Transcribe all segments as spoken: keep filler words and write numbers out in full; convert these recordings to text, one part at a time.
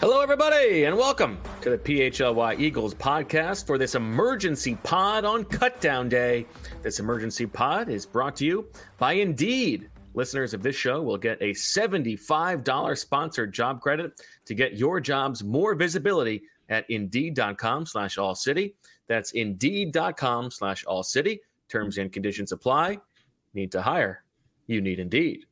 Hello, everybody, and welcome to the P H L Y Eagles podcast for this emergency pod on Cutdown Day. This emergency pod is brought to you by Indeed. Listeners of this show will get a seventy-five dollars sponsored job credit to get your jobs more visibility at Indeed.com slash All City. That's Indeed.com slash All City. Terms and conditions apply. Need to hire? You need Indeed.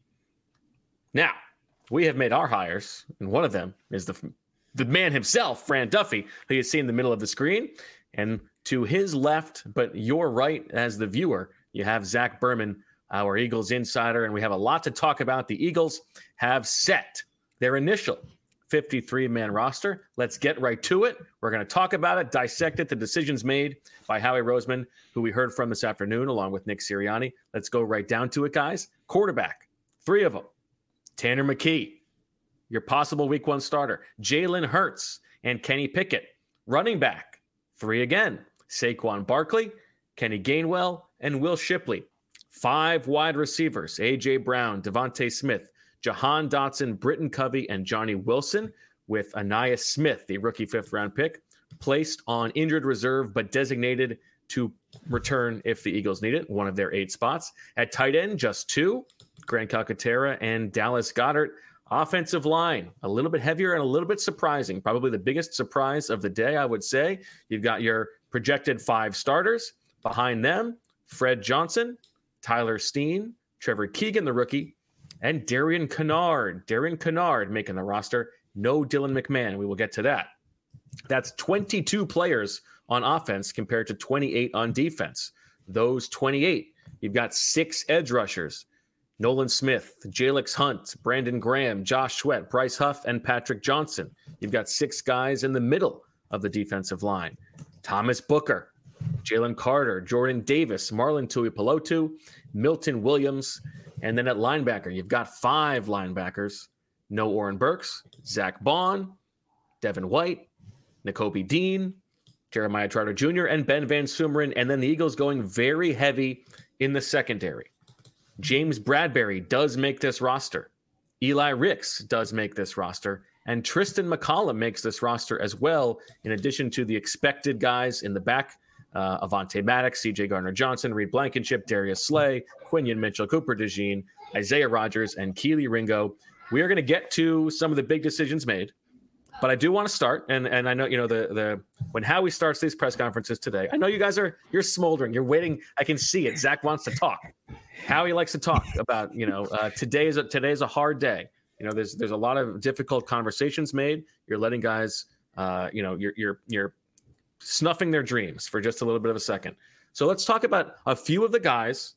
Now, we have made our hires, and one of them is the the man himself, Fran Duffy, who you see in the middle of the screen. And to his left, but your right as the viewer, you have Zach Berman, our Eagles insider, and we have a lot to talk about. The Eagles have set their initial fifty-three man roster. Let's get right to it. We're going to talk about it, dissect it, the decisions made by Howie Roseman, who we heard from this afternoon, along with Nick Sirianni. Let's go right down to it, guys. Quarterback, three of them. Tanner McKee, your possible week one starter. Jalen Hurts and Kenny Pickett. Running back, three again. Saquon Barkley, Kenny Gainwell, and Will Shipley. Five wide receivers. A J. Brown, Devontae Smith, Jahan Dotson, Britton Covey, and Johnny Wilson, with Aniyah Smith, the rookie fifth-round pick, placed on injured reserve but designated to return if the Eagles need it, one of their eight spots. At tight end, just two. Grant Calcaterra and Dallas Goedert. Offensive line, a little bit heavier and a little bit surprising. Probably the biggest surprise of the day, I would say. You've got your projected five starters. Behind them, Fred Johnson, Tyler Steen, Trevor Keegan, the rookie, and Darian Kennard. Darian Kennard making the roster. No Dylan McMahon. We will get to that. That's twenty-two players on offense compared to twenty-eight on defense. Those twenty-eight, you've got six edge rushers. Nolan Smith, Jalix Hunt, Brandon Graham, Josh Sweat, Bryce Huff, and Patrick Johnson. You've got six guys in the middle of the defensive line. Thomas Booker, Jalen Carter, Jordan Davis, Marlon Tuipulotu, Milton Williams, and then at linebacker, you've got five linebackers. No Oren Burks, Zach Bond, Devin White, Nakobe Dean, Jeremiah Trotter Junior, and Ben Van Sumeren. And then the Eagles going very heavy in the secondary. James Bradbury does make this roster. Eli Ricks does make this roster. And Tristan McCollum makes this roster as well, in addition to the expected guys in the back, uh, Avonte Maddox, C J Gardner-Johnson, Reed Blankenship, Darius Slay, Quinion Mitchell, Cooper DeJean, Isaiah Rodgers, and Keely Ringo. We are going to get to some of the big decisions made. But I do want to start, and, and I know, you know, the the when Howie starts these press conferences today, I know you guys are, you're smoldering. You're waiting. I can see it. Zach wants to talk. Howie likes to talk about, you know, uh, today is a, today is a hard day. You know, there's there's a lot of difficult conversations made. You're letting guys, uh, you know, you're you're you're snuffing their dreams for just a little bit of a second. So let's talk about a few of the guys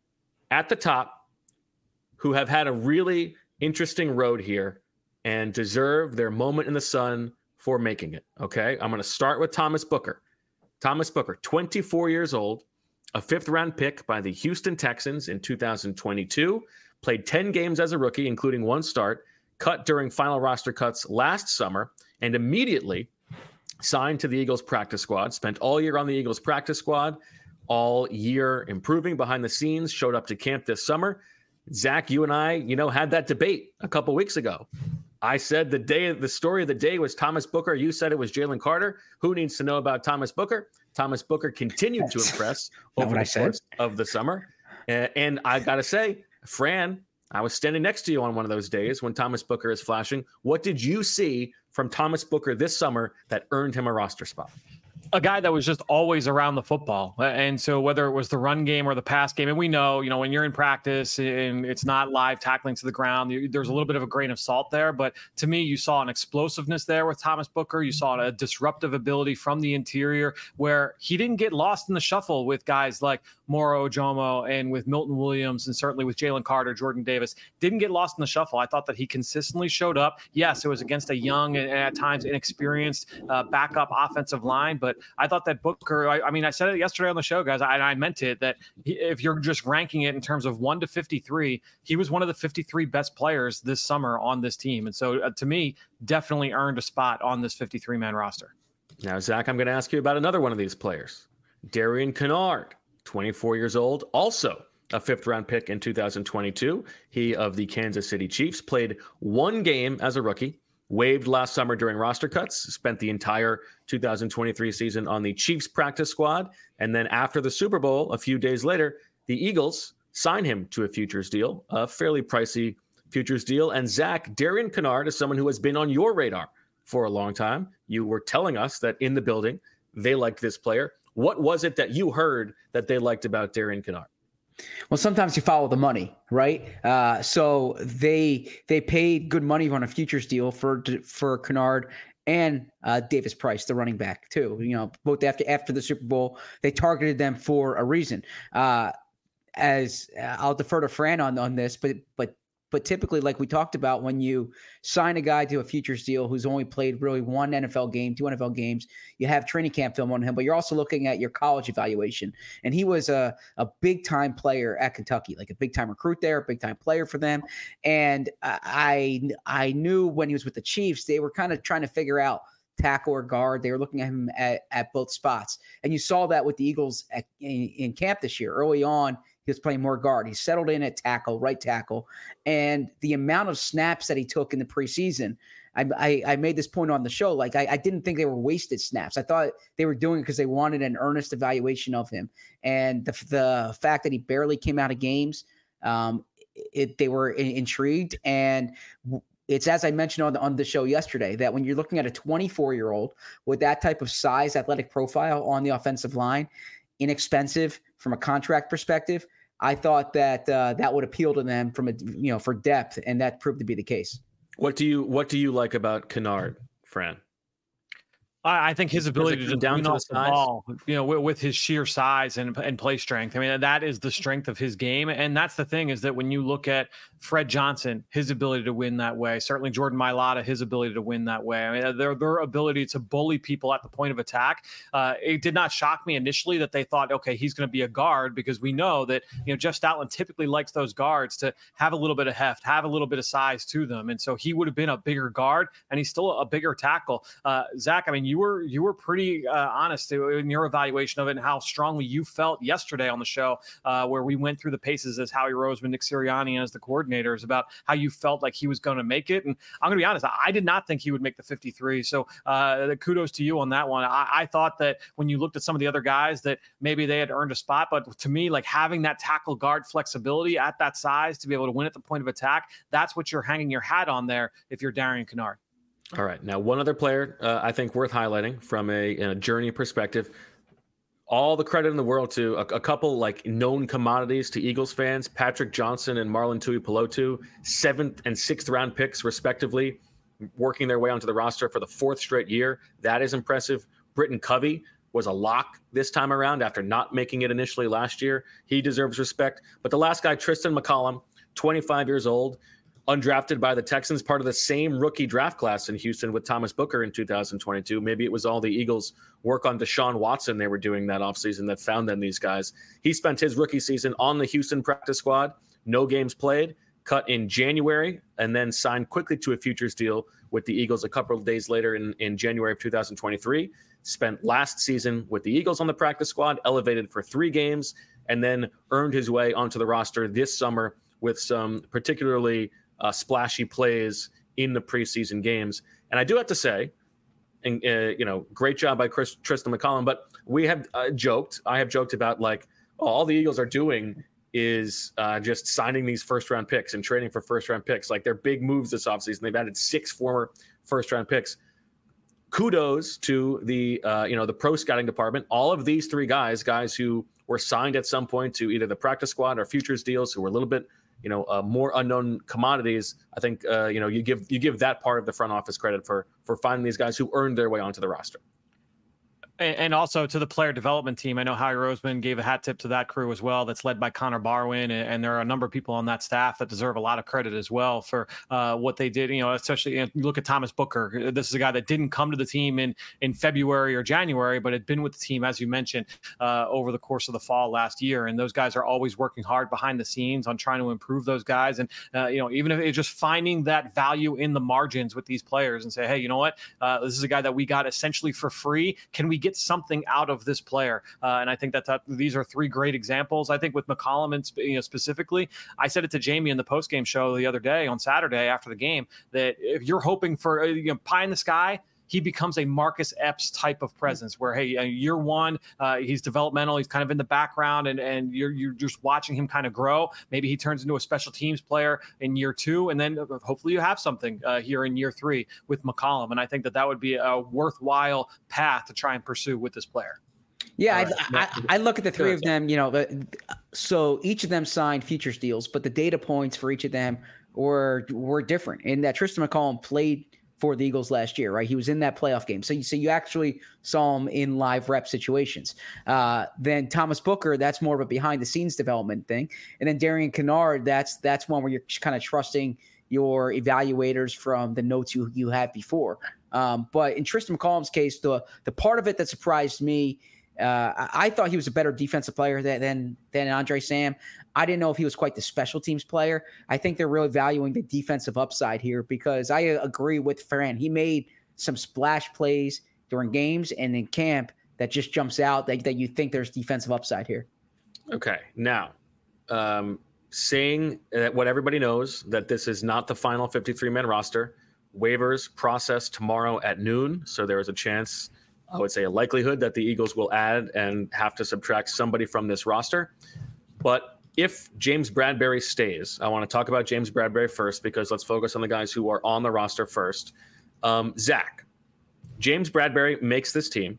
at the top who have had a really interesting road here and deserve their moment in the sun for making it, okay? I'm going to start with Thomas Booker. Thomas Booker, twenty-four years old, a fifth-round pick by the Houston Texans in two thousand twenty-two, played ten games as a rookie, including one start, cut during final roster cuts last summer, and immediately signed to the Eagles practice squad, spent all year on the Eagles practice squad, all year improving behind the scenes, showed up to camp this summer. Zach, you and I, you know, had that debate a couple weeks ago. I said the day, the story of the day was Thomas Booker. You said it was Jalen Carter. Who needs to know about Thomas Booker? Thomas Booker continued That's to impress over the course of the summer. Uh, and I got to say, Fran, I was standing next to you on one of those days when Thomas Booker is flashing. What did you see from Thomas Booker this summer that earned him a roster spot? A guy that was just always around the football. And so whether it was the run game or the pass game, and we know, you know, when you're in practice and it's not live tackling to the ground, there's a little bit of a grain of salt there. But to me, you saw an explosiveness there with Thomas Booker. You saw a disruptive ability from the interior where he didn't get lost in the shuffle with guys like Moro Ojomo and with Milton Williams and certainly with Jalen Carter, Jordan Davis. Didn't get lost in the shuffle. I thought that he consistently showed up. Yes, it was against a young and at times inexperienced uh, backup offensive line, but I thought that Booker, I, I mean, I said it yesterday on the show, guys, I, I meant it, that he, if you're just ranking it in terms of one to fifty-three, he was one of the fifty-three best players this summer on this team. And so uh, to me, definitely earned a spot on this fifty-three man roster. Now, Zach, I'm going to ask you about another one of these players, Darian Kennard, twenty-four years old, also a fifth round pick in two thousand twenty-two. He of the Kansas City Chiefs played one game as a rookie, waived last summer during roster cuts, spent the entire two thousand twenty-three season on the Chiefs practice squad. And then after the Super Bowl, a few days later, the Eagles signed him to a futures deal, a fairly pricey futures deal. And Zach, Darian Kinnard is someone who has been on your radar for a long time. You were telling us that in the building, they liked this player. What was it that you heard that they liked about Darian Kinnard? Well, sometimes you follow the money, right? Uh, so they they paid good money on a futures deal for for Kinnard and uh, Davis Price, the running back, too. You know, both after after the Super Bowl, they targeted them for a reason. Uh, as uh, I'll defer to Fran on on this, but but. But typically, like we talked about, when you sign a guy to a futures deal who's only played really one N F L game, two N F L games, you have training camp film on him, but you're also looking at your college evaluation. And he was a, a big-time player at Kentucky, like a big-time recruit there, a big-time player for them. And I, I knew when he was with the Chiefs, they were kind of trying to figure out tackle or guard. They were looking at him at, at both spots. And you saw that with the Eagles at, in, in camp this year. Early on, he was playing more guard. He settled in at tackle, right tackle. And the amount of snaps that he took in the preseason, I, I, I made this point on the show. Like, I, I didn't think they were wasted snaps. I thought they were doing it because they wanted an earnest evaluation of him. And the, the fact that he barely came out of games, um, it, they were in, intrigued. And it's, as I mentioned on the, on the show yesterday, that when you're looking at a twenty-four-year-old with that type of size, athletic profile on the offensive line, inexpensive from a contract perspective, I thought that uh, that would appeal to them from a you know for depth, and that proved to be the case. What do you what do you like about Kinnard, Fran? I think his ability to just down to off the, the ball, you know, with, with his sheer size and and play strength. I mean, that is the strength of his game. And that's the thing, is that when you look at Fred Johnson, his ability to win that way, certainly Jordan Mailata, his ability to win that way. I mean, their their ability to bully people at the point of attack. Uh, it did not shock me initially that they thought, okay, he's going to be a guard, because we know that, you know, Jeff Stoutland typically likes those guards to have a little bit of heft, have a little bit of size to them. And so he would have been a bigger guard, and he's still a bigger tackle. Uh, Zach, I mean, you were you were pretty pretty uh, honest in your evaluation of it and how strongly you felt yesterday on the show, uh, where we went through the paces as Howie Roseman, Nick Sirianni as the coordinators, about how you felt like he was going to make it. And I'm going to be honest, I did not think he would make the fifty-three. So uh, kudos to you on that one. I, I thought that when you looked at some of the other guys that maybe they had earned a spot, but to me, like having that tackle guard flexibility at that size to be able to win at the point of attack, that's what you're hanging your hat on there if you're Darian Kinnard. All right. Now, one other player uh, I think worth highlighting from a, a journey perspective. All the credit in the world to a, a couple like known commodities to Eagles fans, Patrick Johnson and Marlon Tuipulotu, seventh and sixth round picks respectively, working their way onto the roster for the fourth straight year. That is impressive. Britton Covey was a lock this time around after not making it initially last year. He deserves respect. But the last guy, Tristan McCollum, twenty-five years old, undrafted by the Texans, part of the same rookie draft class in Houston with Thomas Booker in two thousand twenty-two. Maybe it was all the Eagles' work on Deshaun Watson they were doing that offseason that found them these guys. He spent his rookie season on the Houston practice squad, no games played, cut in January, and then signed quickly to a futures deal with the Eagles a couple of days later in, in January of two thousand twenty-three. Spent last season with the Eagles on the practice squad, elevated for three games, and then earned his way onto the roster this summer with some particularly Uh, splashy plays in the preseason games. And I do have to say, and uh, you know, great job by Chris, Tristan McCollum, but we have uh, joked, I have joked about like, oh, all the Eagles are doing is uh, just signing these first round picks and trading for first round picks. Like, they're big moves this offseason. They've added six former first round picks. Kudos to the, uh, you know, the pro scouting department. All of these three guys, guys who were signed at some point to either the practice squad or futures deals, who were a little bit, you know, uh, more unknown commodities. I think, uh, you know, you give you give that part of the front office credit for for finding these guys who earned their way onto the roster. And also to the player development team. I know Howie Roseman gave a hat tip to that crew as well. That's led by Connor Barwin. And there are a number of people on that staff that deserve a lot of credit as well for uh, what they did. You know, especially you know, you look at Thomas Booker. This is a guy that didn't come to the team in, in February or January, but had been with the team, as you mentioned, uh, over the course of the fall last year. And those guys are always working hard behind the scenes on trying to improve those guys. And, uh, you know, even if it's just finding that value in the margins with these players and say, hey, you know what, uh, this is a guy that we got essentially for free. Can we get something out of this player. Uh, and I think that, that these are three great examples. I think with McCollum and, you know, specifically, I said it to Jamie in the postgame show the other day on Saturday after the game, that if you're hoping for, you know, pie in the sky, he becomes a Marcus Epps type of presence where, hey, year one, uh, he's developmental. He's kind of in the background and, and you're, you're just watching him kind of grow. Maybe he turns into a special teams player in year two. And then hopefully you have something uh, here in year three with McCollum. And I think that that would be a worthwhile path to try and pursue with this player. Yeah, right. I, I, I look at the three of them, you know, so each of them signed futures deals, but the data points for each of them were, were different. And that Tristan McCollum played for the Eagles last year, right? He was in that playoff game. So you, so you actually saw him in live rep situations. Uh, then Thomas Booker, that's more of a behind the scenes development thing. And then Darian Kinnard, that's that's one where you're kind of trusting your evaluators from the notes you, you had before. Um, but in Tristan McCollum's case, the the part of it that surprised me, uh, I, I thought he was a better defensive player than, than, than Andre Sam. I didn't know if he was quite the special teams player. I think they're really valuing the defensive upside here because I agree with Fran. He made some splash plays during games and in camp that just jumps out that, that you think there's defensive upside here. Okay. Now, um, saying that what everybody knows, that this is not the final fifty-three man roster. Waivers process tomorrow at noon. So there is a chance, I would say a likelihood, that the Eagles will add and have to subtract somebody from this roster. But if James Bradberry stays, I want to talk about James Bradberry first because let's focus on the guys who are on the roster first. Um, Zach, James Bradberry makes this team.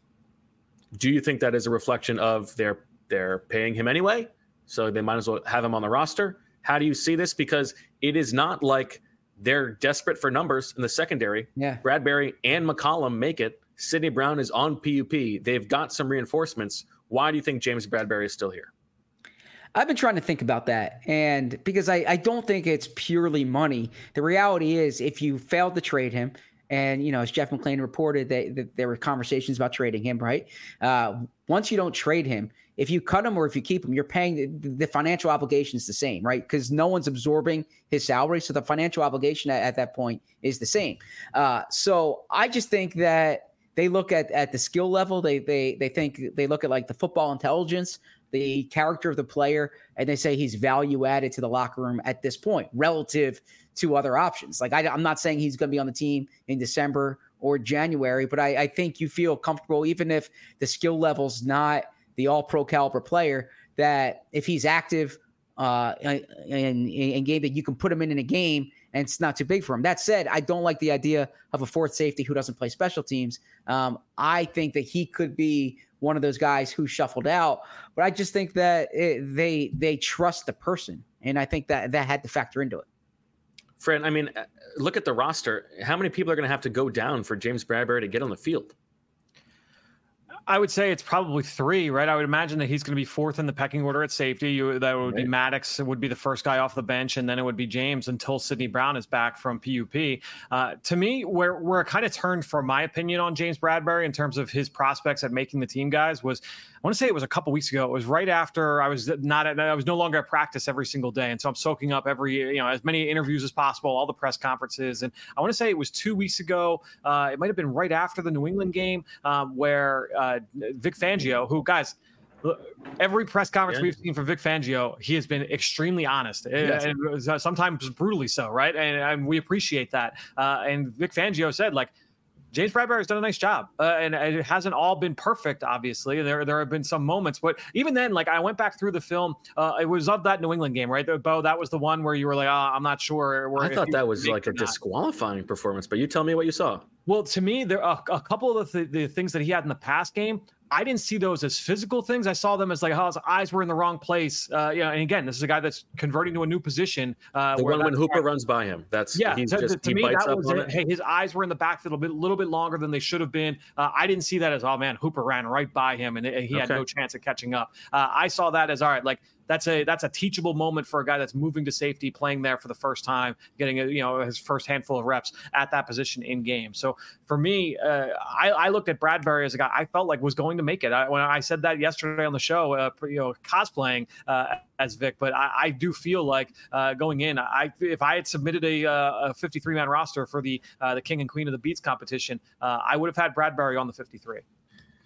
Do you think that is a reflection of their they're paying him anyway, so they might as well have him on the roster? How do you see this? Because it is not like they're desperate for numbers in the secondary. Yeah. Bradberry and McCollum make it. Sidney Brown is on P U P. They've got some reinforcements. Why do you think James Bradberry is still here? I've been trying to think about that. And because I, I don't think it's purely money. The reality is if you failed to trade him, and, you know, as Jeff McLean reported, that, that there were conversations about trading him, right? Uh, once you don't trade him, if you cut him or if you keep him, you're paying the, the financial obligation is the same, right? Because no one's absorbing his salary. So the financial obligation at, at that point is the same. Uh, so I just think that they look at, at the skill level. They, they, they think they look at like the football intelligence, the character of the player, and they say he's value added to the locker room at this point relative to other options. Like I, I'm not saying he's going to be on the team in December or January, but I, I think you feel comfortable, even if the skill level's not the all pro caliber player, that if he's active uh, in, in game, that you can put him in in a game and it's not too big for him. That said, I don't like the idea of a fourth safety who doesn't play special teams. Um, I think that he could be one of those guys who shuffled out, but I just think that it, they they trust the person, and I think that that had to factor into it. Fred, I mean, look at the roster. How many people are going to have to go down for James Bradberry to get on the field? I would say it's probably three, right? I would imagine that he's going to be fourth in the pecking order at safety. You, that would right. be Maddox would be the first guy off the bench, and then it would be James until Sidney Brown is back from P U P. Uh, to me, where where it kind of turned, for my opinion, on James Bradberry in terms of his prospects at making the team, guys, was I want to say it was a couple weeks ago. It was right after I was not at, I was no longer at practice every single day, and so I'm soaking up every you know as many interviews as possible, all the press conferences, and I want to say it was two weeks ago. Uh, it might have been right after the New England game um, where uh, Vic Fangio, who guys. Every press conference yeah. we've seen from Vic Fangio, he has been extremely honest, yes. and, and sometimes brutally so, right? And, and we appreciate that. Uh, and Vic Fangio said, like, James Bradberry has done a nice job, uh, and it hasn't all been perfect, obviously. There there have been some moments, but even then, like, I went back through the film. Uh, it was of that New England game, right? Bo, that was the one where you were like, oh, I'm not sure. I thought that was like a disqualifying performance, but you tell me what you saw. Well, to me, there are a couple of the, th- the things that he had in the past game. I didn't see those as physical things. I saw them as like, oh, his eyes were in the wrong place. Uh, you know, and again, this is a guy that's converting to a new position. Uh, the one when Hooper guy, runs by him. That's yeah. He's to, just, to he me, bites that up was on it. it. Hey, his eyes were in the backfield a bit, little bit longer than they should have been. Uh, I didn't see that as, oh man, Hooper ran right by him and he had okay. no chance of catching up. Uh, I saw that as, all right, like, That's a that's a teachable moment for a guy that's moving to safety, playing there for the first time, getting a, you know his first handful of reps at that position in game. So for me, uh, I, I looked at Bradberry as a guy I felt like was going to make it. I, when I said that yesterday on the show, uh, you know, cosplaying uh, as Vic, but I, I do feel like uh, going in, I if I had submitted a, a fifty-three man roster for the uh, the King and Queen of the Beats competition, uh, I would have had Bradberry on the fifty-three.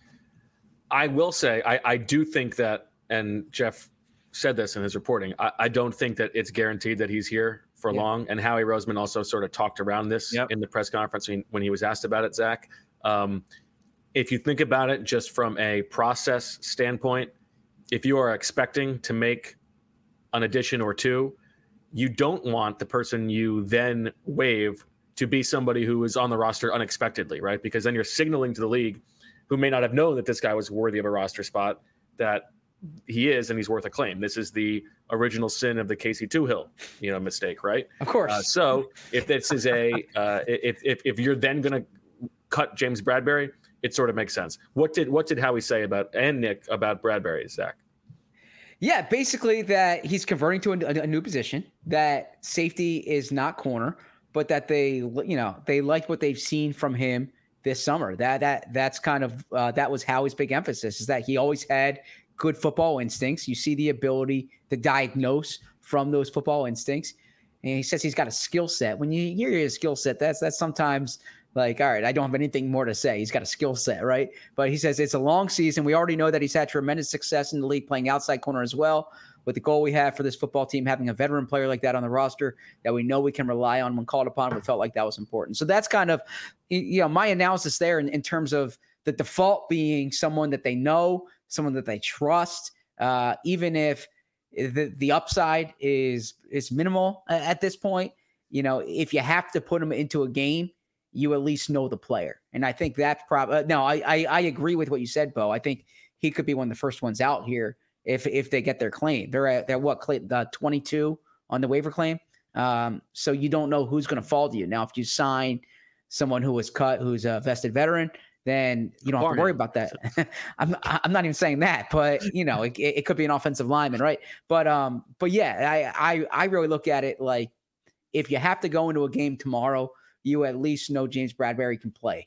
I will say, I, I do think that, and Jeff said this in his reporting, I, I don't think that it's guaranteed that he's here for yep. long. And Howie Roseman also sort of talked around this yep. in the press conference when, when he was asked about it, Zach. Um, if you think about it just from a process standpoint, if you are expecting to make an addition or two, you don't want the person you then waive to be somebody who is on the roster unexpectedly, right? Because then you're signaling to the league, who may not have known that this guy was worthy of a roster spot, that he is and he's worth a claim. This is the original sin of the Casey Toohill, you know, mistake, right? Of course. Uh, so if this is a, uh, if, if if you're then going to cut James Bradberry, it sort of makes sense. What did what did Howie say about and Nick about Bradberry, Zach? Yeah, basically that he's converting to a, a new position, that safety is not corner, but that they, you know, they like what they've seen from him this summer. That that that's kind of uh, that was Howie's big emphasis, is that he always had good football instincts. You see the ability to diagnose from those football instincts, and he says he's got a skill set. When you hear his skill set, that's that's sometimes like, all right, I don't have anything more to say. He's got a skill set, right? But he says it's a long season. We already know that he's had tremendous success in the league playing outside corner as well. With the goal we have for this football team, having a veteran player like that on the roster that we know we can rely on when called upon, we felt like that was important. So that's kind of, you know, my analysis there in, in terms of the default being someone that they know, someone that they trust, uh, even if the, the upside is is minimal at this point. You know, if you have to put them into a game, you at least know the player. And I think that's probably, uh, no, I, I I agree with what you said, Bo. I think he could be one of the first ones out here if if they get their claim. They're at, they're what, uh, twenty-two on the waiver claim. Um, so you don't know who's going to fall to you. Now, if you sign someone who was cut, who's a vested veteran, then you don't have to worry about that. I'm I'm not even saying that, but you know, it, it could be an offensive lineman, right? But um, but yeah, I I I really look at it like, if you have to go into a game tomorrow, you at least know James Bradberry can play.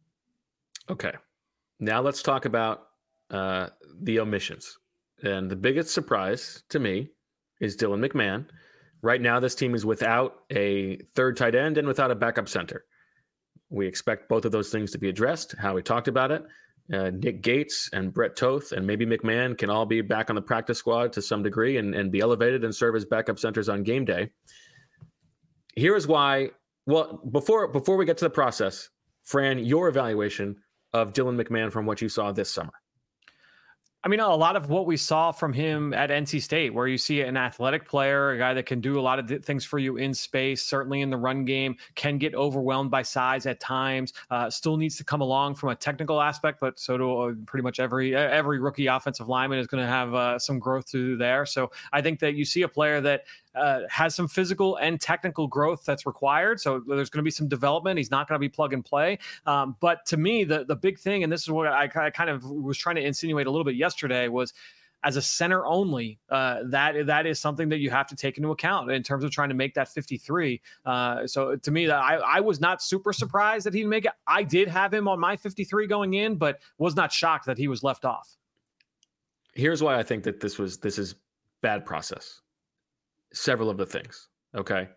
Okay. Now let's talk about uh, the omissions. And the biggest surprise to me is Dylan McMahon. Right now, this team is without a third tight end and without a backup center. We expect both of those things to be addressed. How we talked about it. Uh, Nick Gates and Brett Toth and maybe McMahon can all be back on the practice squad to some degree and, and be elevated and serve as backup centers on game day. Here's why. Well, before before we get to the process, Fran, your evaluation of Dylan McMahon from what you saw this summer. I mean, a lot of what we saw from him at N C State, where you see an athletic player, a guy that can do a lot of things for you in space, certainly in the run game, can get overwhelmed by size at times, uh, still needs to come along from a technical aspect, but so do uh, pretty much every every rookie offensive lineman is going to have uh, some growth to do there. So I think that you see a player that Uh, has some physical and technical growth that's required. So there's going to be some development. He's not going to be plug and play. Um, but to me, the, the big thing, and this is what I, I kind of was trying to insinuate a little bit yesterday, was as a center only, uh, that that is something that you have to take into account in terms of trying to make that fifty-three. Uh, so to me, that I, I was not super surprised that he'd make it. I did have him on my fifty-three going in, but was not shocked that he was left off. Here's why I think that this was this is bad process. Several of the things. Okay.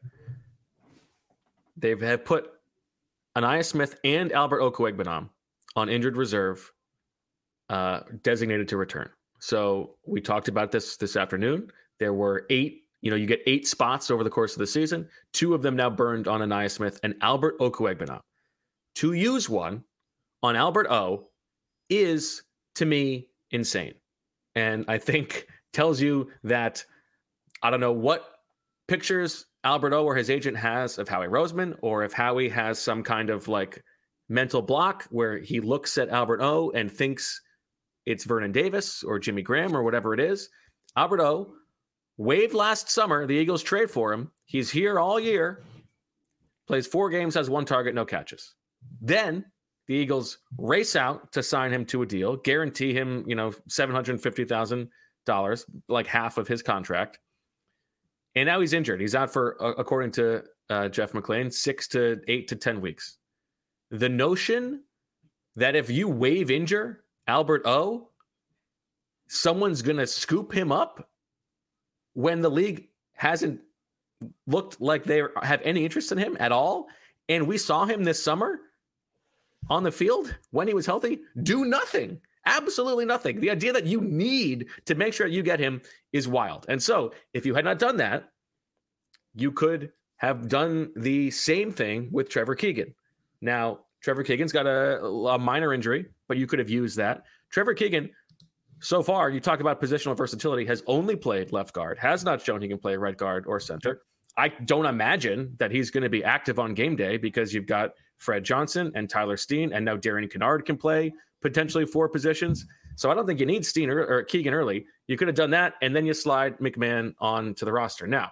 They've have put Ainias Smith and Albert Okwuegbunam on injured reserve, uh, designated to return. So we talked about this this afternoon. There were eight, you know, you get eight spots over the course of the season. Two of them now burned on Ainias Smith and Albert Okwuegbunam. To use one on Albert O is, to me, insane. And I think tells you that I don't know what pictures Albert O or his agent has of Howie Roseman, or if Howie has some kind of like mental block where he looks at Albert O and thinks it's Vernon Davis or Jimmy Graham or whatever it is. Albert O waived last summer. The Eagles trade for him. He's here all year, plays four games, has one target, no catches. Then the Eagles race out to sign him to a deal, guarantee him, you know, seven hundred fifty thousand dollars, like half of his contract. And now he's injured. He's out for, uh, according to uh, Jeff McLean, six to eight to ten weeks. The notion that if you waive injure Albert O, someone's going to scoop him up when the league hasn't looked like they have any interest in him at all. And we saw him this summer on the field when he was healthy, do nothing. Absolutely nothing. The idea that you need to make sure you get him is wild. And so if you had not done that, you could have done the same thing with Trevor Keegan. Now, Trevor Keegan's got a, a minor injury, but you could have used that. Trevor Keegan, so far, you talk about positional versatility, has only played left guard, has not shown he can play right guard or center. I don't imagine that he's going to be active on game day because you've got Fred Johnson and Tyler Steen, and now Darian Kennard can play potentially four positions. So I don't think you need Steen or, or Keegan early. You could have done that, and then you slide McMahon on to the roster. Now,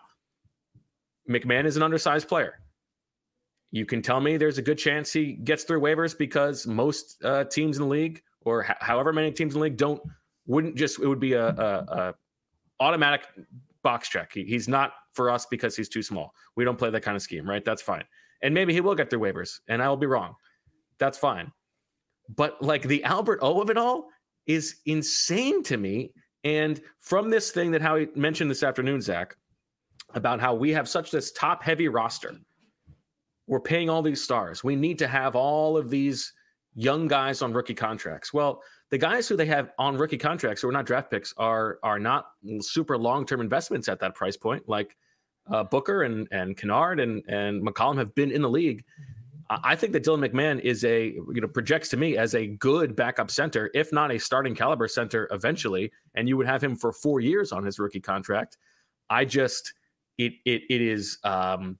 McMahon is an undersized player. You can tell me there's a good chance he gets through waivers because most uh, teams in the league, or h- however many teams in the league, don't wouldn't just it would be a, a, a automatic box check. He, he's not for us because he's too small. We don't play that kind of scheme, right? That's fine. And maybe he will get through waivers, and I will be wrong. That's fine. But like the Albert O of it all is insane to me. And from this thing that Howie mentioned this afternoon, Zach, about how we have such this top heavy roster. We're paying all these stars. We need to have all of these young guys on rookie contracts. Well, the guys who they have on rookie contracts who are not draft picks are are not super long-term investments at that price point. Like uh, Booker and and Kennard and and McCollum have been in the league. I think that Dylan McMahon is a, you know, projects to me as a good backup center, if not a starting caliber center eventually. And you would have him for four years on his rookie contract. I just, it, it, it is, um,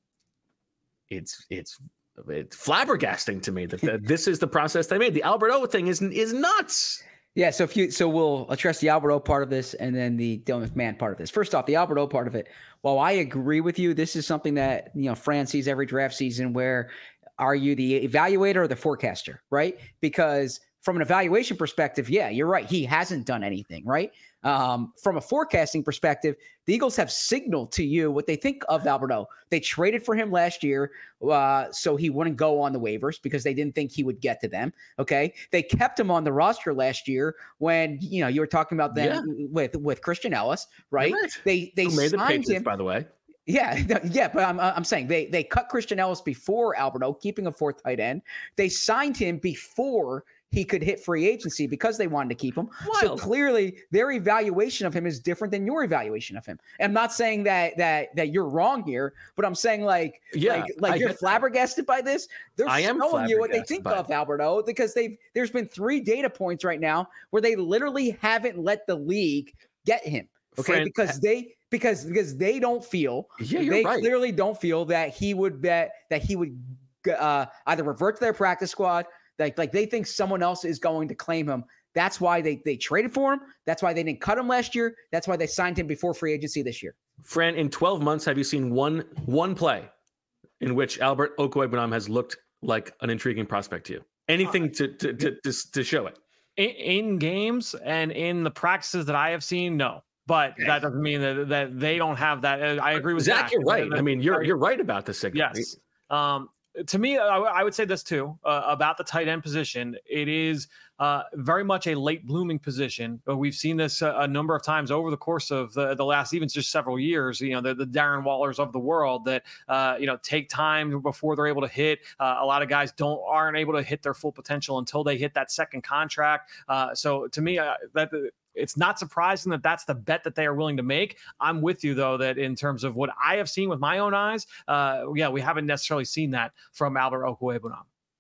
it's, it's, it's flabbergasting to me that, that this is the process they made. The Albert O thing is, is nuts. Yeah, so if you so we'll address the Albert O part of this and then the Dylan McMahon part of this. First off, the Albert O part of it. While I agree with you, this is something that, you know, Fran sees every draft season where are you the evaluator or the forecaster, right? Because from an evaluation perspective, yeah, you're right. He hasn't done anything, right? Um, from a forecasting perspective, the Eagles have signaled to you what they think of Albert O. They traded for him last year uh, so he wouldn't go on the waivers because they didn't think he would get to them, okay? They kept him on the roster last year when, you know, you were talking about them yeah. with, with Christian Ellis, right? right. They they Who made the signed Patriots, him, by the way. Yeah, yeah, but I'm I'm saying they they cut Christian Ellis before Albert O, keeping a fourth tight end. They signed him before he could hit free agency because they wanted to keep him. Wild. So clearly their evaluation of him is different than your evaluation of him. And I'm not saying that that that you're wrong here, but I'm saying like yeah, like, like you're flabbergasted that. by this. They're I am showing you what they think of Albert O because they've there's been three data points right now where they literally haven't let the league get him. Okay, Friend, because they because because they don't feel yeah, you're they right. clearly don't feel that he would bet that he would uh, either revert to their practice squad. Like like they think someone else is going to claim him. That's why they they traded for him. That's why they didn't cut him last year. That's why they signed him before free agency this year. Fran, in twelve months, have you seen one one play in which Albert Okwuegbunam has looked like an intriguing prospect to you? Anything to to to to, to show it in, in games and in the practices that I have seen? No. But that doesn't mean that, that they don't have that. I agree with Zach. Zach. You're right. I mean, you're you're right about the signal. Yes. Um, to me, I, I would say this too uh, about the tight end position. It is uh, very much a late blooming position. But we've seen this a, a number of times over the course of the, the last even just several years. You know, the, the Darren Wallers of the world that uh, you know take time before they're able to hit. Uh, a lot of guys don't aren't able to hit their full potential until they hit that second contract. Uh, so to me, uh, that. It's not surprising that that's the bet that they are willing to make. I'm with you, though, that in terms of what I have seen with my own eyes, uh, yeah, we haven't necessarily seen that from Albert Okwuegbunam.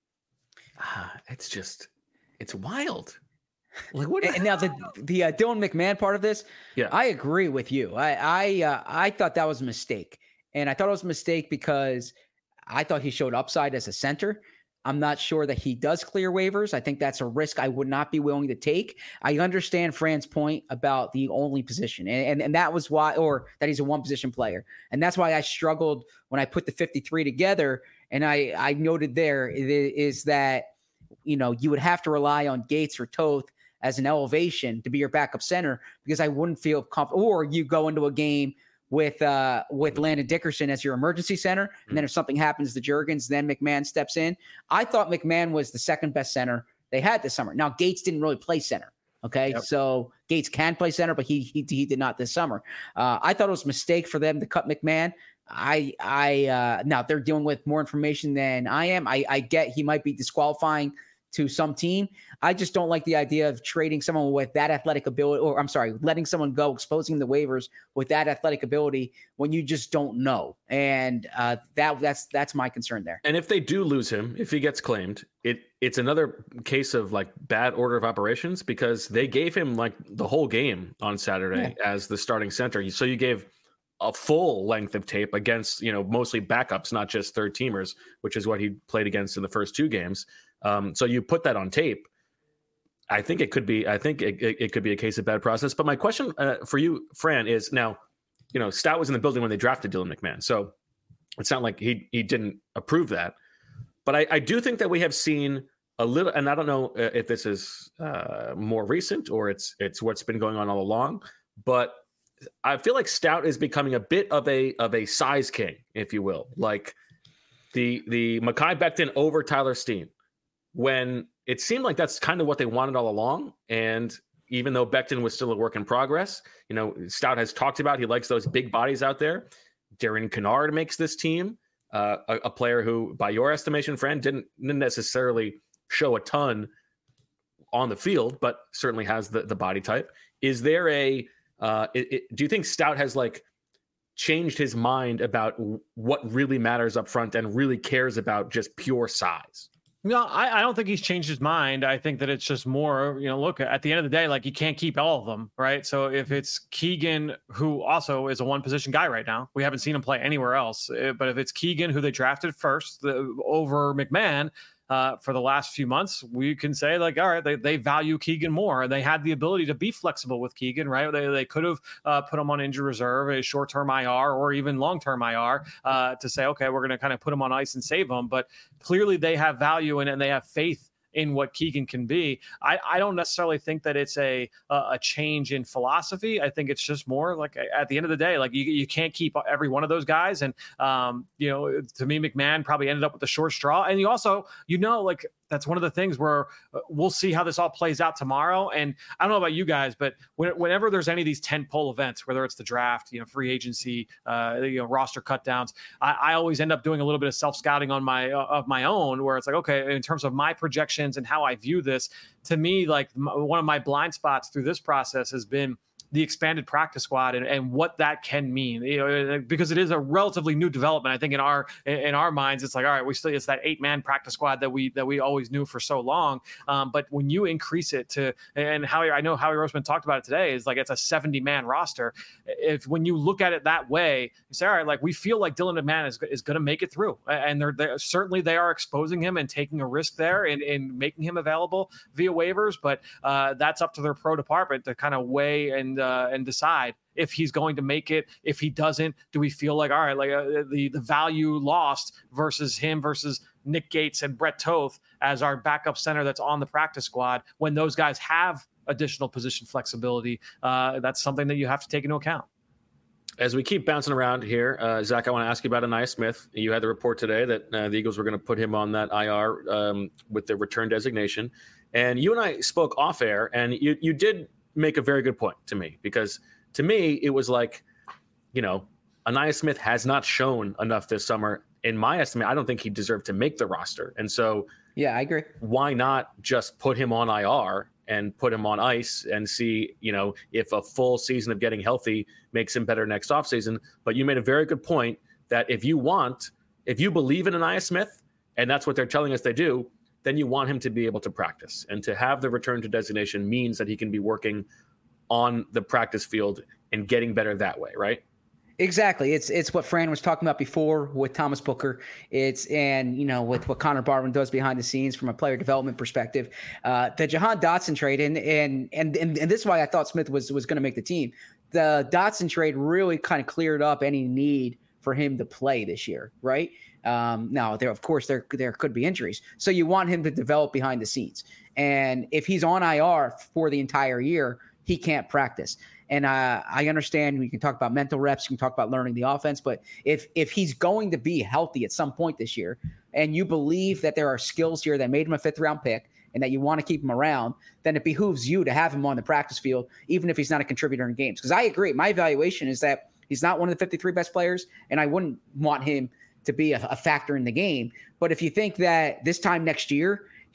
Ah, it's just, it's wild. Like what? And now the the uh, Dylan McMahon part of this, yeah, I agree with you. I I uh, I thought that was a mistake, and I thought it was a mistake because I thought he showed upside as a center. I'm not sure that he does clear waivers. I think that's a risk I would not be willing to take. I understand Fran's point about the only position, and, and, and that was why, or that he's a one position player. And that's why I struggled when I put the fifty-three together. And I, I noted there is that, you know, you would have to rely on Gates or Toth as an elevation to be your backup center because I wouldn't feel comfortable. Or you go into a game with uh with Landon Dickerson as your emergency center. And then if something happens to Juergens, then McMahon steps in. I thought McMahon was the second best center they had this summer. Now, Gates didn't really play center. Okay. Yep. So Gates can play center, but he, he, he did not this summer. Uh, I thought it was a mistake for them to cut McMahon. I, I, uh, now they're dealing with more information than I am. I, I get he might be disqualifying to some team. I just don't like the idea of trading someone with that athletic ability, or I'm sorry, letting someone go, exposing the waivers with that athletic ability when you just don't know. And uh, that that's that's my concern there. And if they do lose him, if he gets claimed, it it's another case of like bad order of operations, because they gave him like the whole game on Saturday yeah. as the starting center. So you gave a full length of tape against, you know, mostly backups, not just third teamers, which is what he played against in the first two games. Um, so you put that on tape. I think it could be, I think it, it, it could be a case of bad process. But my question uh, for you, Fran, is now, you know, Stout was in the building when they drafted Dylan McMahon. So it's not like he, he didn't approve that. But I, I do think that we have seen a little, and I don't know if this is uh, more recent or it's, it's what's been going on all along, but I feel like Stout is becoming a bit of a of a size king, if you will, like the the Mekhi Becton over Tyler Steen, when it seemed like that's kind of what they wanted all along. And even though Becton was still a work in progress, you know, Stout has talked about he likes those big bodies out there. Darren Kennard makes this team uh, a, a player who, by your estimation, Fran, didn't, didn't necessarily show a ton on the field, but certainly has the the body type. Is there a Uh, it, it, do you think Stout has like changed his mind about w- what really matters up front and really cares about just pure size? No, I, I don't think he's changed his mind. I think that it's just more, you know, look, at the end of the day, like you can't keep all of them, right? So if it's Keegan, who also is a one position guy right now, we haven't seen him play anywhere else. But if it's Keegan, who they drafted first the, over McMahon, Uh, for the last few months, we can say like, all right, they, they value Keegan more, and they had the ability to be flexible with Keegan, right? They, they could have uh, put him on injury reserve, a short-term I R, or even long-term I R uh, to say, okay, we're going to kind of put him on ice and save him. But clearly they have value in it, and they have faith in what Keegan can be. I, I don't necessarily think that it's a a change in philosophy. I think it's just more like at the end of the day, like you, you can't keep every one of those guys. And, um, you know, to me, McMahon probably ended up with the short straw. And you also, you know, like that's one of the things where we'll see how this all plays out tomorrow. And I don't know about you guys, but when, whenever there's any of these tent pole events, whether it's the draft, you know, free agency, uh, you know, roster cut downs, I, I always end up doing a little bit of self-scouting on my, uh, of my own, where it's like, okay, in terms of my projections and how I view this, to me, like m- one of my blind spots through this process has been the expanded practice squad and, and what that can mean, you know, because it is a relatively new development. I think in our in our minds, it's like, all right, we still it's that eight man practice squad that we that we always knew for so long. Um, but when you increase it to, and Howie, I know Howie Roseman talked about it today, is like it's a seventy man roster. If when you look at it that way, you say, all right, like we feel like Dylan McMahon is is going to make it through, and they're, they're certainly they are exposing him and taking a risk there and in making him available via waivers. But uh, that's up to their pro department to kind of weigh and. Uh, and decide if he's going to make it. If he doesn't, do we feel like, all right, like uh, the, the value lost versus him versus Nick Gates and Brett Toth as our backup center that's on the practice squad, when those guys have additional position flexibility, uh, that's something that you have to take into account. As we keep bouncing around here, uh, Zach, I want to ask you about Ainias Smith. You had the report today that uh, the Eagles were going to put him on that I R um, with the return designation. And you and I spoke off air, and you you did make a very good point to me, because to me, it was like, you know, Ainias Smith has not shown enough this summer. In my estimate, I don't think he deserved to make the roster. And so, yeah, I agree. Why not just put him on I R and put him on ice and see, you know, if a full season of getting healthy makes him better next offseason? But you made a very good point that if you want, if you believe in Ainias Smith, and that's what they're telling us they do, then you want him to be able to practice. And to have the return to designation means that he can be working on the practice field and getting better that way, right? Exactly. It's it's what Fran was talking about before with Thomas Booker. It's and you know with what Connor Barwin does behind the scenes from a player development perspective. Uh, the Jahan Dotson trade and and and and, and this is why I thought Smith was was going to make the team. The Dotson trade really kind of cleared up any need for him to play this year, right? Um, now, there of course there there could be injuries, so you want him to develop behind the scenes. And if he's on I R for the entire year, he can't practice. And uh, I understand we can talk about mental reps, you can talk about learning the offense, but if if he's going to be healthy at some point this year, and you believe that there are skills here that made him a fifth round pick and that you want to keep him around, then it behooves you to have him on the practice field, even if he's not a contributor in games. Because I agree, my evaluation is that he's not one of the fifty-three best players, and I wouldn't want him to be a, a factor in the game. But if you think that this time next year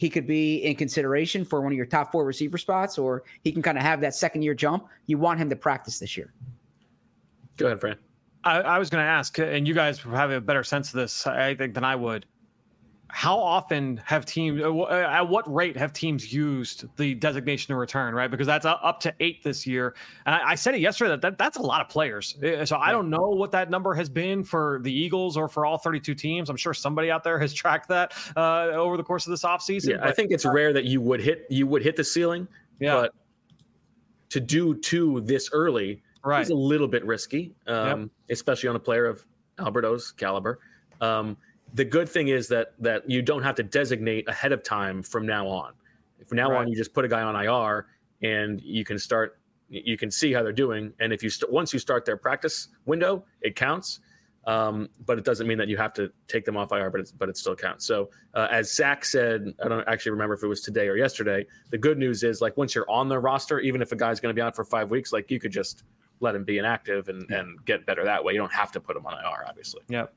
he could be in consideration for one of your top four receiver spots, or he can kind of have that second year jump. You want him to practice this year. Go ahead, Fran. I, I was going to ask, and you guys have a better sense of this, I think, than I would. How often have teams, at what rate have teams used the designation to return, right? Because that's up to eight this year. And I, I said it yesterday that, that that's a lot of players. So I don't know what that number has been for the Eagles or for all thirty-two teams. I'm sure somebody out there has tracked that uh, over the course of this offseason. Yeah, but, I think it's uh, rare that you would hit you would hit the ceiling. Yeah. But to do two this early right. is a little bit risky, um, yep. especially on a player of Alberto's caliber. Um, The good thing is that that you don't have to designate ahead of time from now on. From now right. on, you just put a guy on I R, and you can start. You can see how they're doing, and if you st- once you start their practice window, it counts. Um, but it doesn't mean that you have to take them off I R, but it's, but it still counts. So uh, as Zach said, I don't actually remember if it was today or yesterday. The good news is, like, once you're on the roster, even if a guy's going to be out for five weeks, like, you could just let him be inactive and yeah. and get better that way. You don't have to put him on I R, obviously. Yep.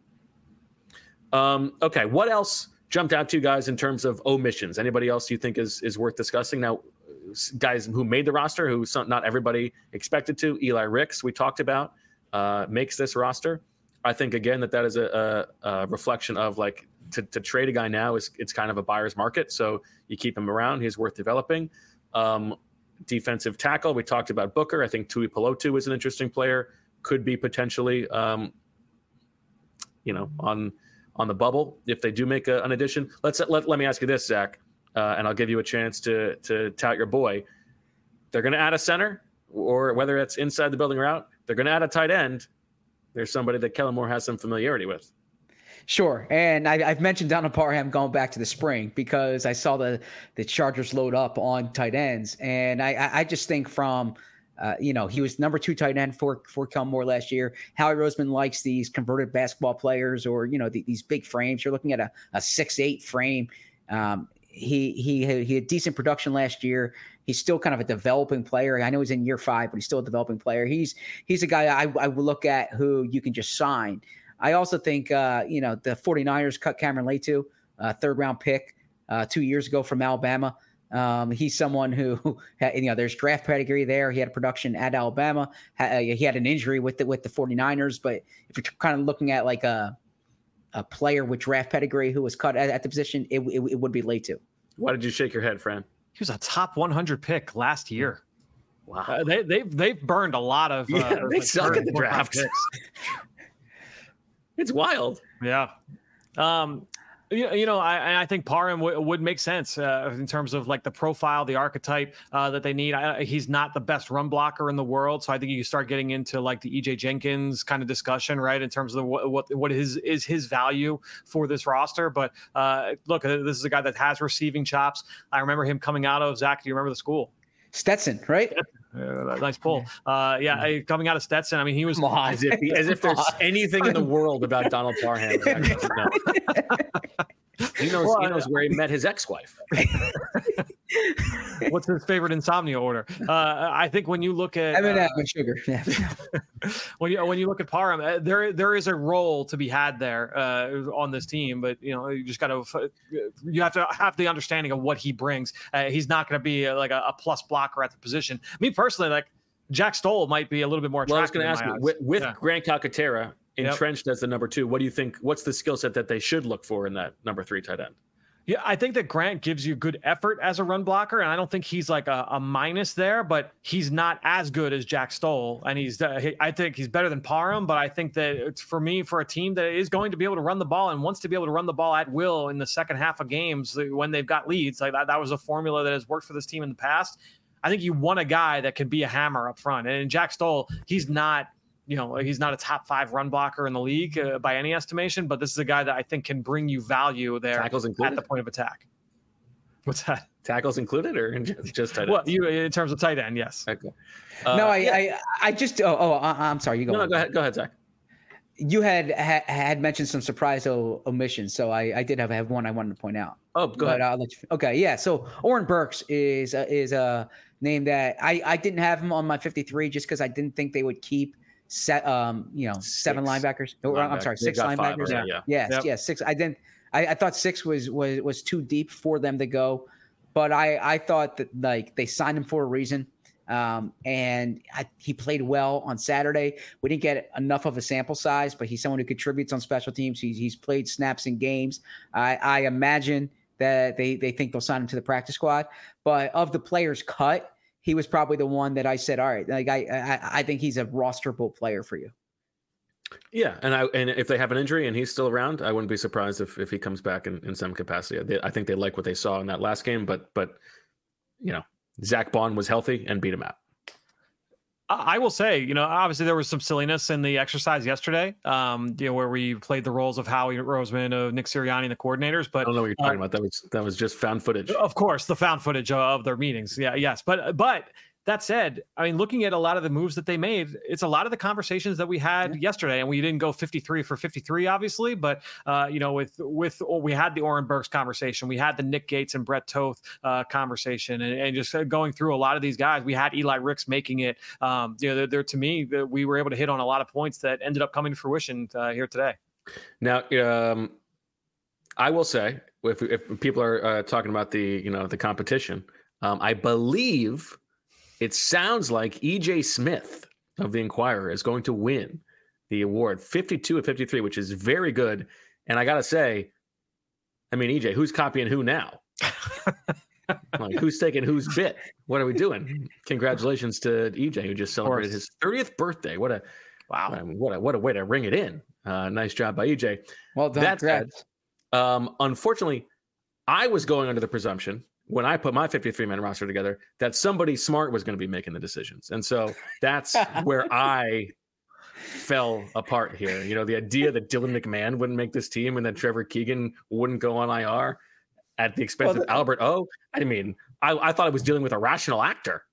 Um, okay, what else jumped out to you guys in terms of omissions? Anybody else you think is is worth discussing? Now, guys who made the roster, who some, not everybody expected to. Eli Ricks, we talked about, uh, makes this roster. I think, again, that that is a, a, a reflection of, like, to, to trade a guy now is it's kind of a buyer's market, so you keep him around. He's worth developing. Um, defensive tackle, we talked about Booker. I think Tui Pelotu is an interesting player, could be potentially, um, you know, on – on the bubble if they do make a, an addition. Let's let, let me ask you this, Zach, uh, and I'll give you a chance to to tout your boy. They're going to add a center, or whether it's inside the building or out, they're going to add a tight end. There's somebody that Kellen Moore has some familiarity with. Sure, and I, I've mentioned Donald Parham going back to the spring because I saw the the Chargers load up on tight ends, and I I just think from Uh, you know, he was number two tight end for, for Kellen Moore last year. Howie Roseman likes these converted basketball players, or, you know, the, these big frames. You're looking at a, a six eight frame. Um, he, he, he had decent production last year. He's still kind of a developing player. I know he's in year five, but he's still a developing player. He's, he's a guy I, I would look at who you can just sign. I also think, uh, you know, the 49ers cut Cameron Leatu, uh, third round pick uh, two years ago from Alabama. Um, he's someone who, you know, there's draft pedigree there. He had a production at Alabama. He had an injury with the, with the 49ers. But if you're kind of looking at like a a player with draft pedigree who was cut at, at the position, it, it, it would be Leatu. Why did you shake your head, Fran? He was a top one hundred pick last year. Wow. Uh, they, they've, they've burned a lot of uh, yeah, they suck at the draft. It's wild. Yeah. Um, You, you know, I, I think Parham w- would make sense uh, in terms of, like, the profile, the archetype uh, that they need. I, he's not the best run blocker in the world, so I think you start getting into, like, the E J Jenkins kind of discussion, right, in terms of the, what what what is is his value for this roster. But uh, look, this is a guy that has receiving chops. I remember him coming out of Zach. Do you remember the school? Stetson, right? Uh, nice pull. Uh, yeah, yeah, coming out of Stetson. I mean, he was as if, as if there's anything in the world about Donald Parham. No. He knows. Well, he knows where he met his ex-wife. What's his favorite insomnia order? Uh, I think when you look at I mean, uh, sugar. when you when you look at Parham, uh, there there is a role to be had there uh, on this team, but you know you just got to you have to have the understanding of what he brings. Uh, he's not going to be a, like a, a plus blocker at the position. Me personally, like Jack Stoll might be a little bit more attractive. Well, I was going to ask you with, with yeah. Grant Calcaterra entrenched yep. as the number two, what do you think? What's the skill set that they should look for in that number three tight end? Yeah, I think that Grant gives you good effort as a run blocker, and I don't think he's like a, a minus there, but he's not as good as Jack Stoll, and he's uh, he, I think he's better than Parham, but I think that it's for me, for a team that is going to be able to run the ball and wants to be able to run the ball at will in the second half of games when they've got leads, like that, that was a formula that has worked for this team in the past. I think you want a guy that can be a hammer up front, and Jack Stoll, he's not you know, he's not a top five run blocker in the league uh, by any estimation, but this is a guy that I think can bring you value there Tackles included? At the point of attack. What's that? Tackles included or just, just tight end? Well, you in terms of tight end, yes. Okay. Uh, no, I, yeah. I, I just, oh, oh, I'm sorry. You go. No, no, go ahead. Go ahead, Zach. You had ha, had mentioned some surprise o- omissions, so I, I did have, have one I wanted to point out. Oh, go but ahead. I'll let you, okay, yeah. So Oren Burks is uh, is a name that I, I didn't have him on my fifty-three just because I didn't think they would keep set um you know seven six linebackers. Oh, I'm sorry, six linebackers. Five, right? Yeah. Yes, yep. yes, six. I didn't I, I thought six was was was too deep for them to go, but I I thought that like they signed him for a reason. Um, and I, he played well on Saturday. We didn't get enough of a sample size, but he's someone who contributes on special teams. He's, he's played snaps in games. I, I imagine that they, they think they'll sign him to the practice squad, but of the players cut, he was probably the one that I said, all right, like I, I, I think he's a rosterable player for you. Yeah, and I and if they have an injury and he's still around, I wouldn't be surprised if, if he comes back in, in some capacity. They, I think they like what they saw in that last game, but but you know, Zach Bond was healthy and beat him out. I will say, you know, obviously there was some silliness in the exercise yesterday, um, you know, where we played the roles of Howie Roseman, of Nick Sirianni, and the coordinators. But I don't know what you're talking uh, about. That was that was just found footage. Of course, the found footage of their meetings. Yeah, yes, but but. That said, I mean, looking at a lot of the moves that they made, it's a lot of the conversations that we had yeah. yesterday, and we didn't go fifty-three for fifty-three, obviously, but uh, you know, with with oh, we had the Oren Burks conversation, we had the Nick Gates and Brett Toth uh, conversation, and, and just going through a lot of these guys. We had Eli Ricks making it. Um, you know, they're, they're to me, we were able to hit on a lot of points that ended up coming to fruition uh, here today. Now, um, I will say, if if people are uh, talking about the you know the competition, um, I believe. It sounds like E J Smith of the Inquirer is going to win the award, fifty-two of fifty-three, which is very good. And I got to say, I mean, E J, who's copying who now? Like, who's taking whose bit? What are we doing? Congratulations to E J, who just celebrated his thirtieth birthday. What a wow! What a what a way to ring it in. Uh, nice job by E J. Well done. That said, um, unfortunately, I was going under the presumption, when I put my fifty-three man roster together, that somebody smart was going to be making the decisions. And so that's where I fell apart here. You know, the idea that Dylan McMahon wouldn't make this team and that Trevor Keegan wouldn't go on I R at the expense well, of Albert O. I mean, I, I thought I was dealing with a rational actor.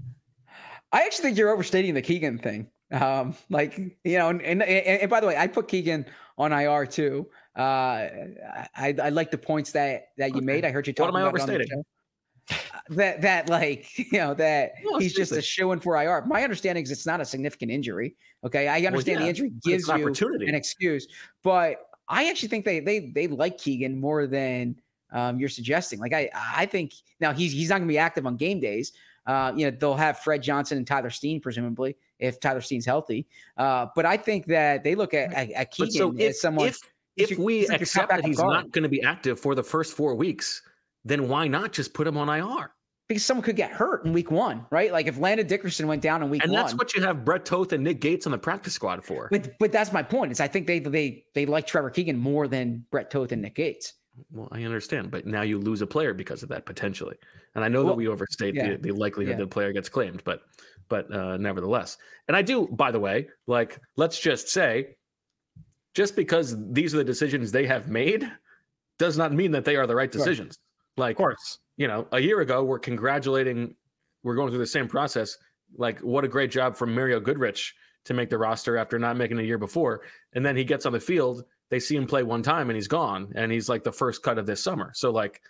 I actually think you're overstating the Keegan thing. Um, like, you know, and, and, and by the way, I put Keegan on I R too. Uh, I, I like the points that, that you okay. made. I heard you talking about what am I overstating? It on the show. that, that like, you know, that no, he's just a shoo-in for I R. My understanding is it's not a significant injury. Okay. I understand well, yeah, the injury gives an you an excuse, but I actually think they, they, they like Keegan more than um, you're suggesting. Like, I, I think now he's, he's not gonna be active on game days. Uh, you know, they'll have Fred Johnson and Tyler Steen, presumably, if Tyler Steen's healthy. Uh, but I think that they look at, at, at Keegan so if, as someone. If, if we like accept that he's not going to be active for the first four weeks, then why not just put him on I R? Because someone could get hurt in week one, right? Like if Landon Dickerson went down in week and one. And that's what you have Brett Toth and Nick Gates on the practice squad for. But but that's my point. Is I think they they they like Trevor Keegan more than Brett Toth and Nick Gates. Well, I understand, but now you lose a player because of that potentially. And I know well, that we overstate yeah, the, the likelihood yeah. that a player gets claimed, but but uh, nevertheless. And I do, by the way, like let's just say, just because these are the decisions they have made does not mean that they are the right decisions. Sure. Like, of course, you know, a year ago, we're congratulating, we're going through the same process. Like, what a great job from Mario Goodrich to make the roster after not making a year before. And then he gets on the field, they see him play one time and he's gone. And he's like the first cut of this summer. So like,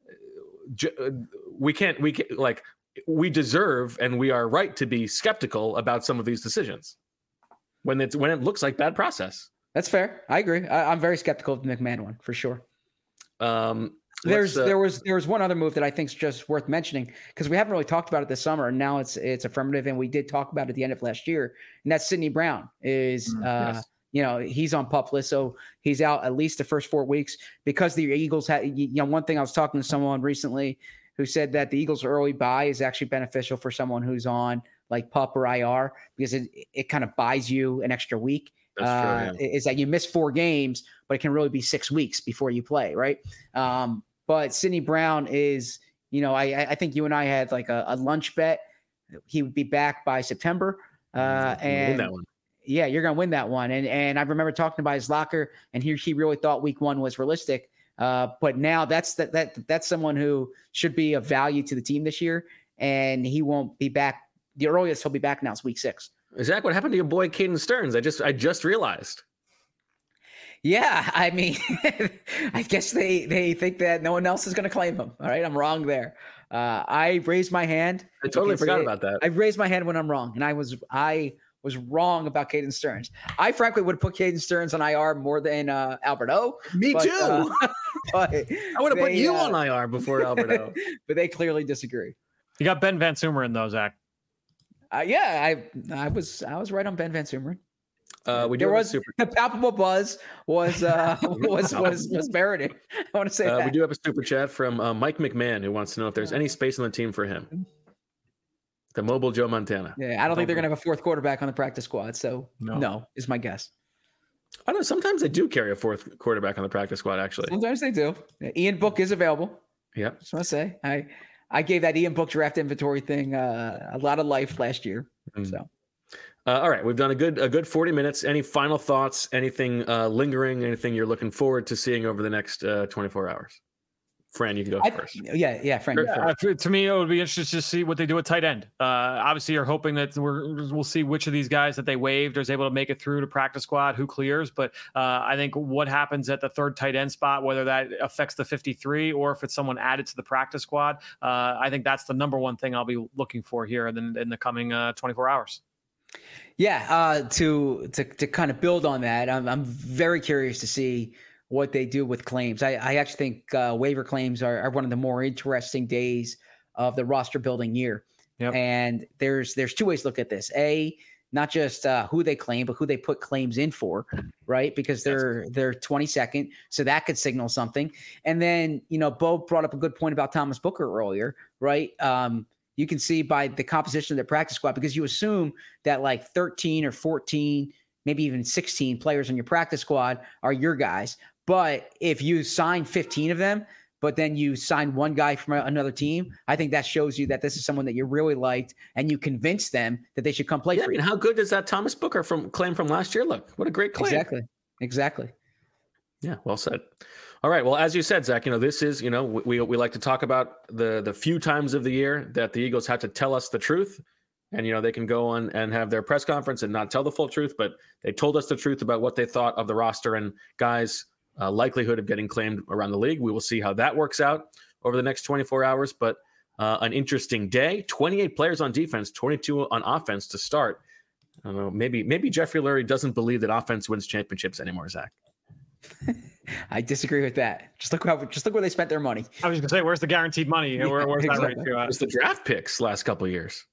we can't, we can't, like, we deserve and we are right to be skeptical about some of these decisions when it's, when it looks like bad process. That's fair. I agree. I, I'm very skeptical of the McMahon one for sure. Um, There's uh, there was there was one other move that I think is just worth mentioning because we haven't really talked about it this summer, and now it's it's affirmative, and we did talk about it at the end of last year, and that's Sidney Brown is mm, uh, yes. you know he's on PUP list, so he's out at least the first four weeks because the Eagles had you know one thing I was talking to someone recently who said that the Eagles' early buy is actually beneficial for someone who's on like PUP or I R because it it kind of buys you an extra week. That's uh, true, yeah. Is that you miss four games, but it can really be six weeks before you play, right? Um, But Sidney Brown is, you know, I I think you and I had like a, a lunch bet. He would be back by September. Uh, and that one. Yeah, you're going to win that one. And and I remember talking about his locker, and he he really thought week one was realistic. Uh, but now that's that that that's someone who should be of value to the team this year, and he won't be back. The earliest he'll be back now is week six. Zach, what happened to your boy Caden Stearns? I just I just realized. Yeah, I mean, I guess they, they think that no one else is going to claim him. All right, I'm wrong there. Uh, I raised my hand. I totally forgot it, about that. I raised my hand when I'm wrong, and I was I was wrong about Caden Stearns. I frankly would have put Caden Stearns on I R more than uh, Albert O. Me but, too. Uh, but I would have put you uh, on I R before Alberto. But they clearly disagree. You got Ben Van Sumeren though, Zach. Uh, yeah, I I was I was right on Ben Van Sumeren. Uh, we there was super- the palpable buzz was uh, was was was merited. I want to say uh, that. We do have a super chat from uh, Mike McMahon who wants to know if there's any space on the team for him. The mobile Joe Montana. Yeah, I don't mobile. think they're gonna have a fourth quarterback on the practice squad. So no, no is my guess. I don't know. Sometimes they do carry a fourth quarterback on the practice squad. Actually, sometimes they do. Ian Book is available. Yep. Just want to say I I gave that Ian Book draft inventory thing uh, a lot of life last year. Mm. So. Uh, all right, we've done a good a good forty minutes. Any final thoughts? Anything uh, lingering? Anything you're looking forward to seeing over the next uh, twenty-four hours? Fran, you can go I, first. Yeah, yeah, Fran. Yeah, to me, it would be interesting to see what they do at tight end. Uh, obviously, you're hoping that we're, we'll see which of these guys that they waived is able to make it through to practice squad, who clears. But uh, I think what happens at the third tight end spot, whether that affects the fifty-three or if it's someone added to the practice squad, uh, I think that's the number one thing I'll be looking for here in, in the coming uh, twenty-four hours. Yeah, uh, to to to kind of build on that, I'm I'm very curious to see what they do with claims. I, I actually think uh, waiver claims are, are one of the more interesting days of the roster building year. Yep. And there's there's two ways to look at this. A, not just uh, who they claim, but who they put claims in for, right? Because they're they're twenty-second, so that could signal something. And then, you know, Bo brought up a good point about Thomas Booker earlier, right? Um, you can see by the composition of the practice squad, because you assume that like thirteen or fourteen, maybe even sixteen players on your practice squad are your guys. But if you sign fifteen of them, but then you sign one guy from another team, I think that shows you that this is someone that you really liked and you convince them that they should come play yeah, for you. And how good does that Thomas Booker from claim from last year look? What a great claim. Exactly. Exactly. Yeah, well said. All right. Well, as you said, Zach, you know, this is, you know, we we like to talk about the the few times of the year that the Eagles have to tell us the truth. And, you know, they can go on and have their press conference and not tell the full truth, but they told us the truth about what they thought of the roster and guys' uh, likelihood of getting claimed around the league. We will see how that works out over the next twenty-four hours. But uh, an interesting day. twenty-eight players on defense, twenty-two on offense to start. I don't know. Maybe maybe Jeffrey Lurie doesn't believe that offense wins championships anymore, Zach. I disagree with that. Just look how just look where they spent their money. I was going to say, where's the guaranteed money? Yeah, where, where's exactly. that right to? It's the draft picks last couple of years.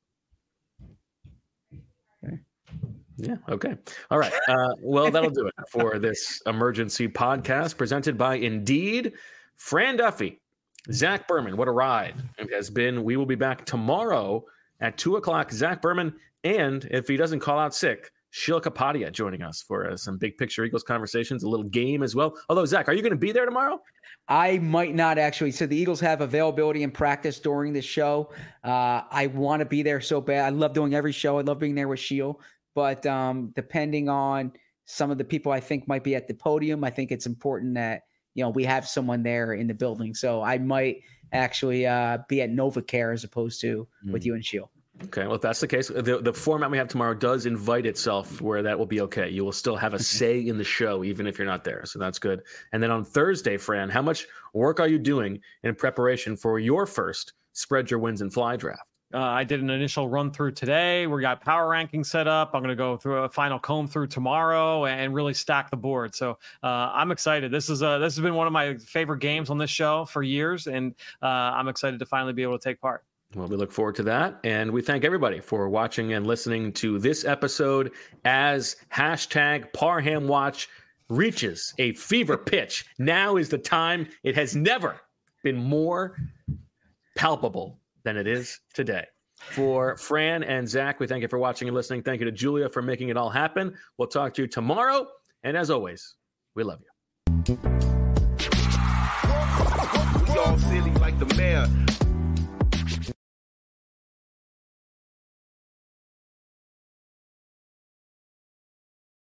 Okay. Yeah. Okay. All right. Uh, well, that'll do it for this emergency podcast presented by Indeed. Fran Duffy, Zach Berman. What a ride it has been. We will be back tomorrow at two o'clock. Zach Berman, and if he doesn't call out sick, Sheila Kapadia joining us for uh, some big picture Eagles conversations, a little game as well. Although, Zach, are you going to be there tomorrow? I might not actually. So the Eagles have availability in practice during the show. Uh, I want to be there so bad. I love doing every show. I love being there with Sheila. But um, depending on some of the people I think might be at the podium, I think it's important that, you know, we have someone there in the building. So I might actually uh, be at NovaCare as opposed to mm. with you and Sheila. Okay, well, if that's the case, the, the format we have tomorrow does invite itself where that will be okay. You will still have a say in the show, even if you're not there. So that's good. And then on Thursday, Fran, how much work are you doing in preparation for your first Spread Your Wins and Fly draft? Uh, I did an initial run through today. We got power ranking set up. I'm going to go through a final comb through tomorrow and really stack the board. So uh, I'm excited. This is a, this has been one of my favorite games on this show for years, and uh, I'm excited to finally be able to take part. Well, we look forward to that. And we thank everybody for watching and listening to this episode as hashtag Parham Watch reaches a fever pitch. Now is the time. It has never been more palpable than it is today. For Fran and Zach, we thank you for watching and listening. Thank you to Julia for making it all happen. We'll talk to you tomorrow. And as always, we love you. We all silly like the mayor.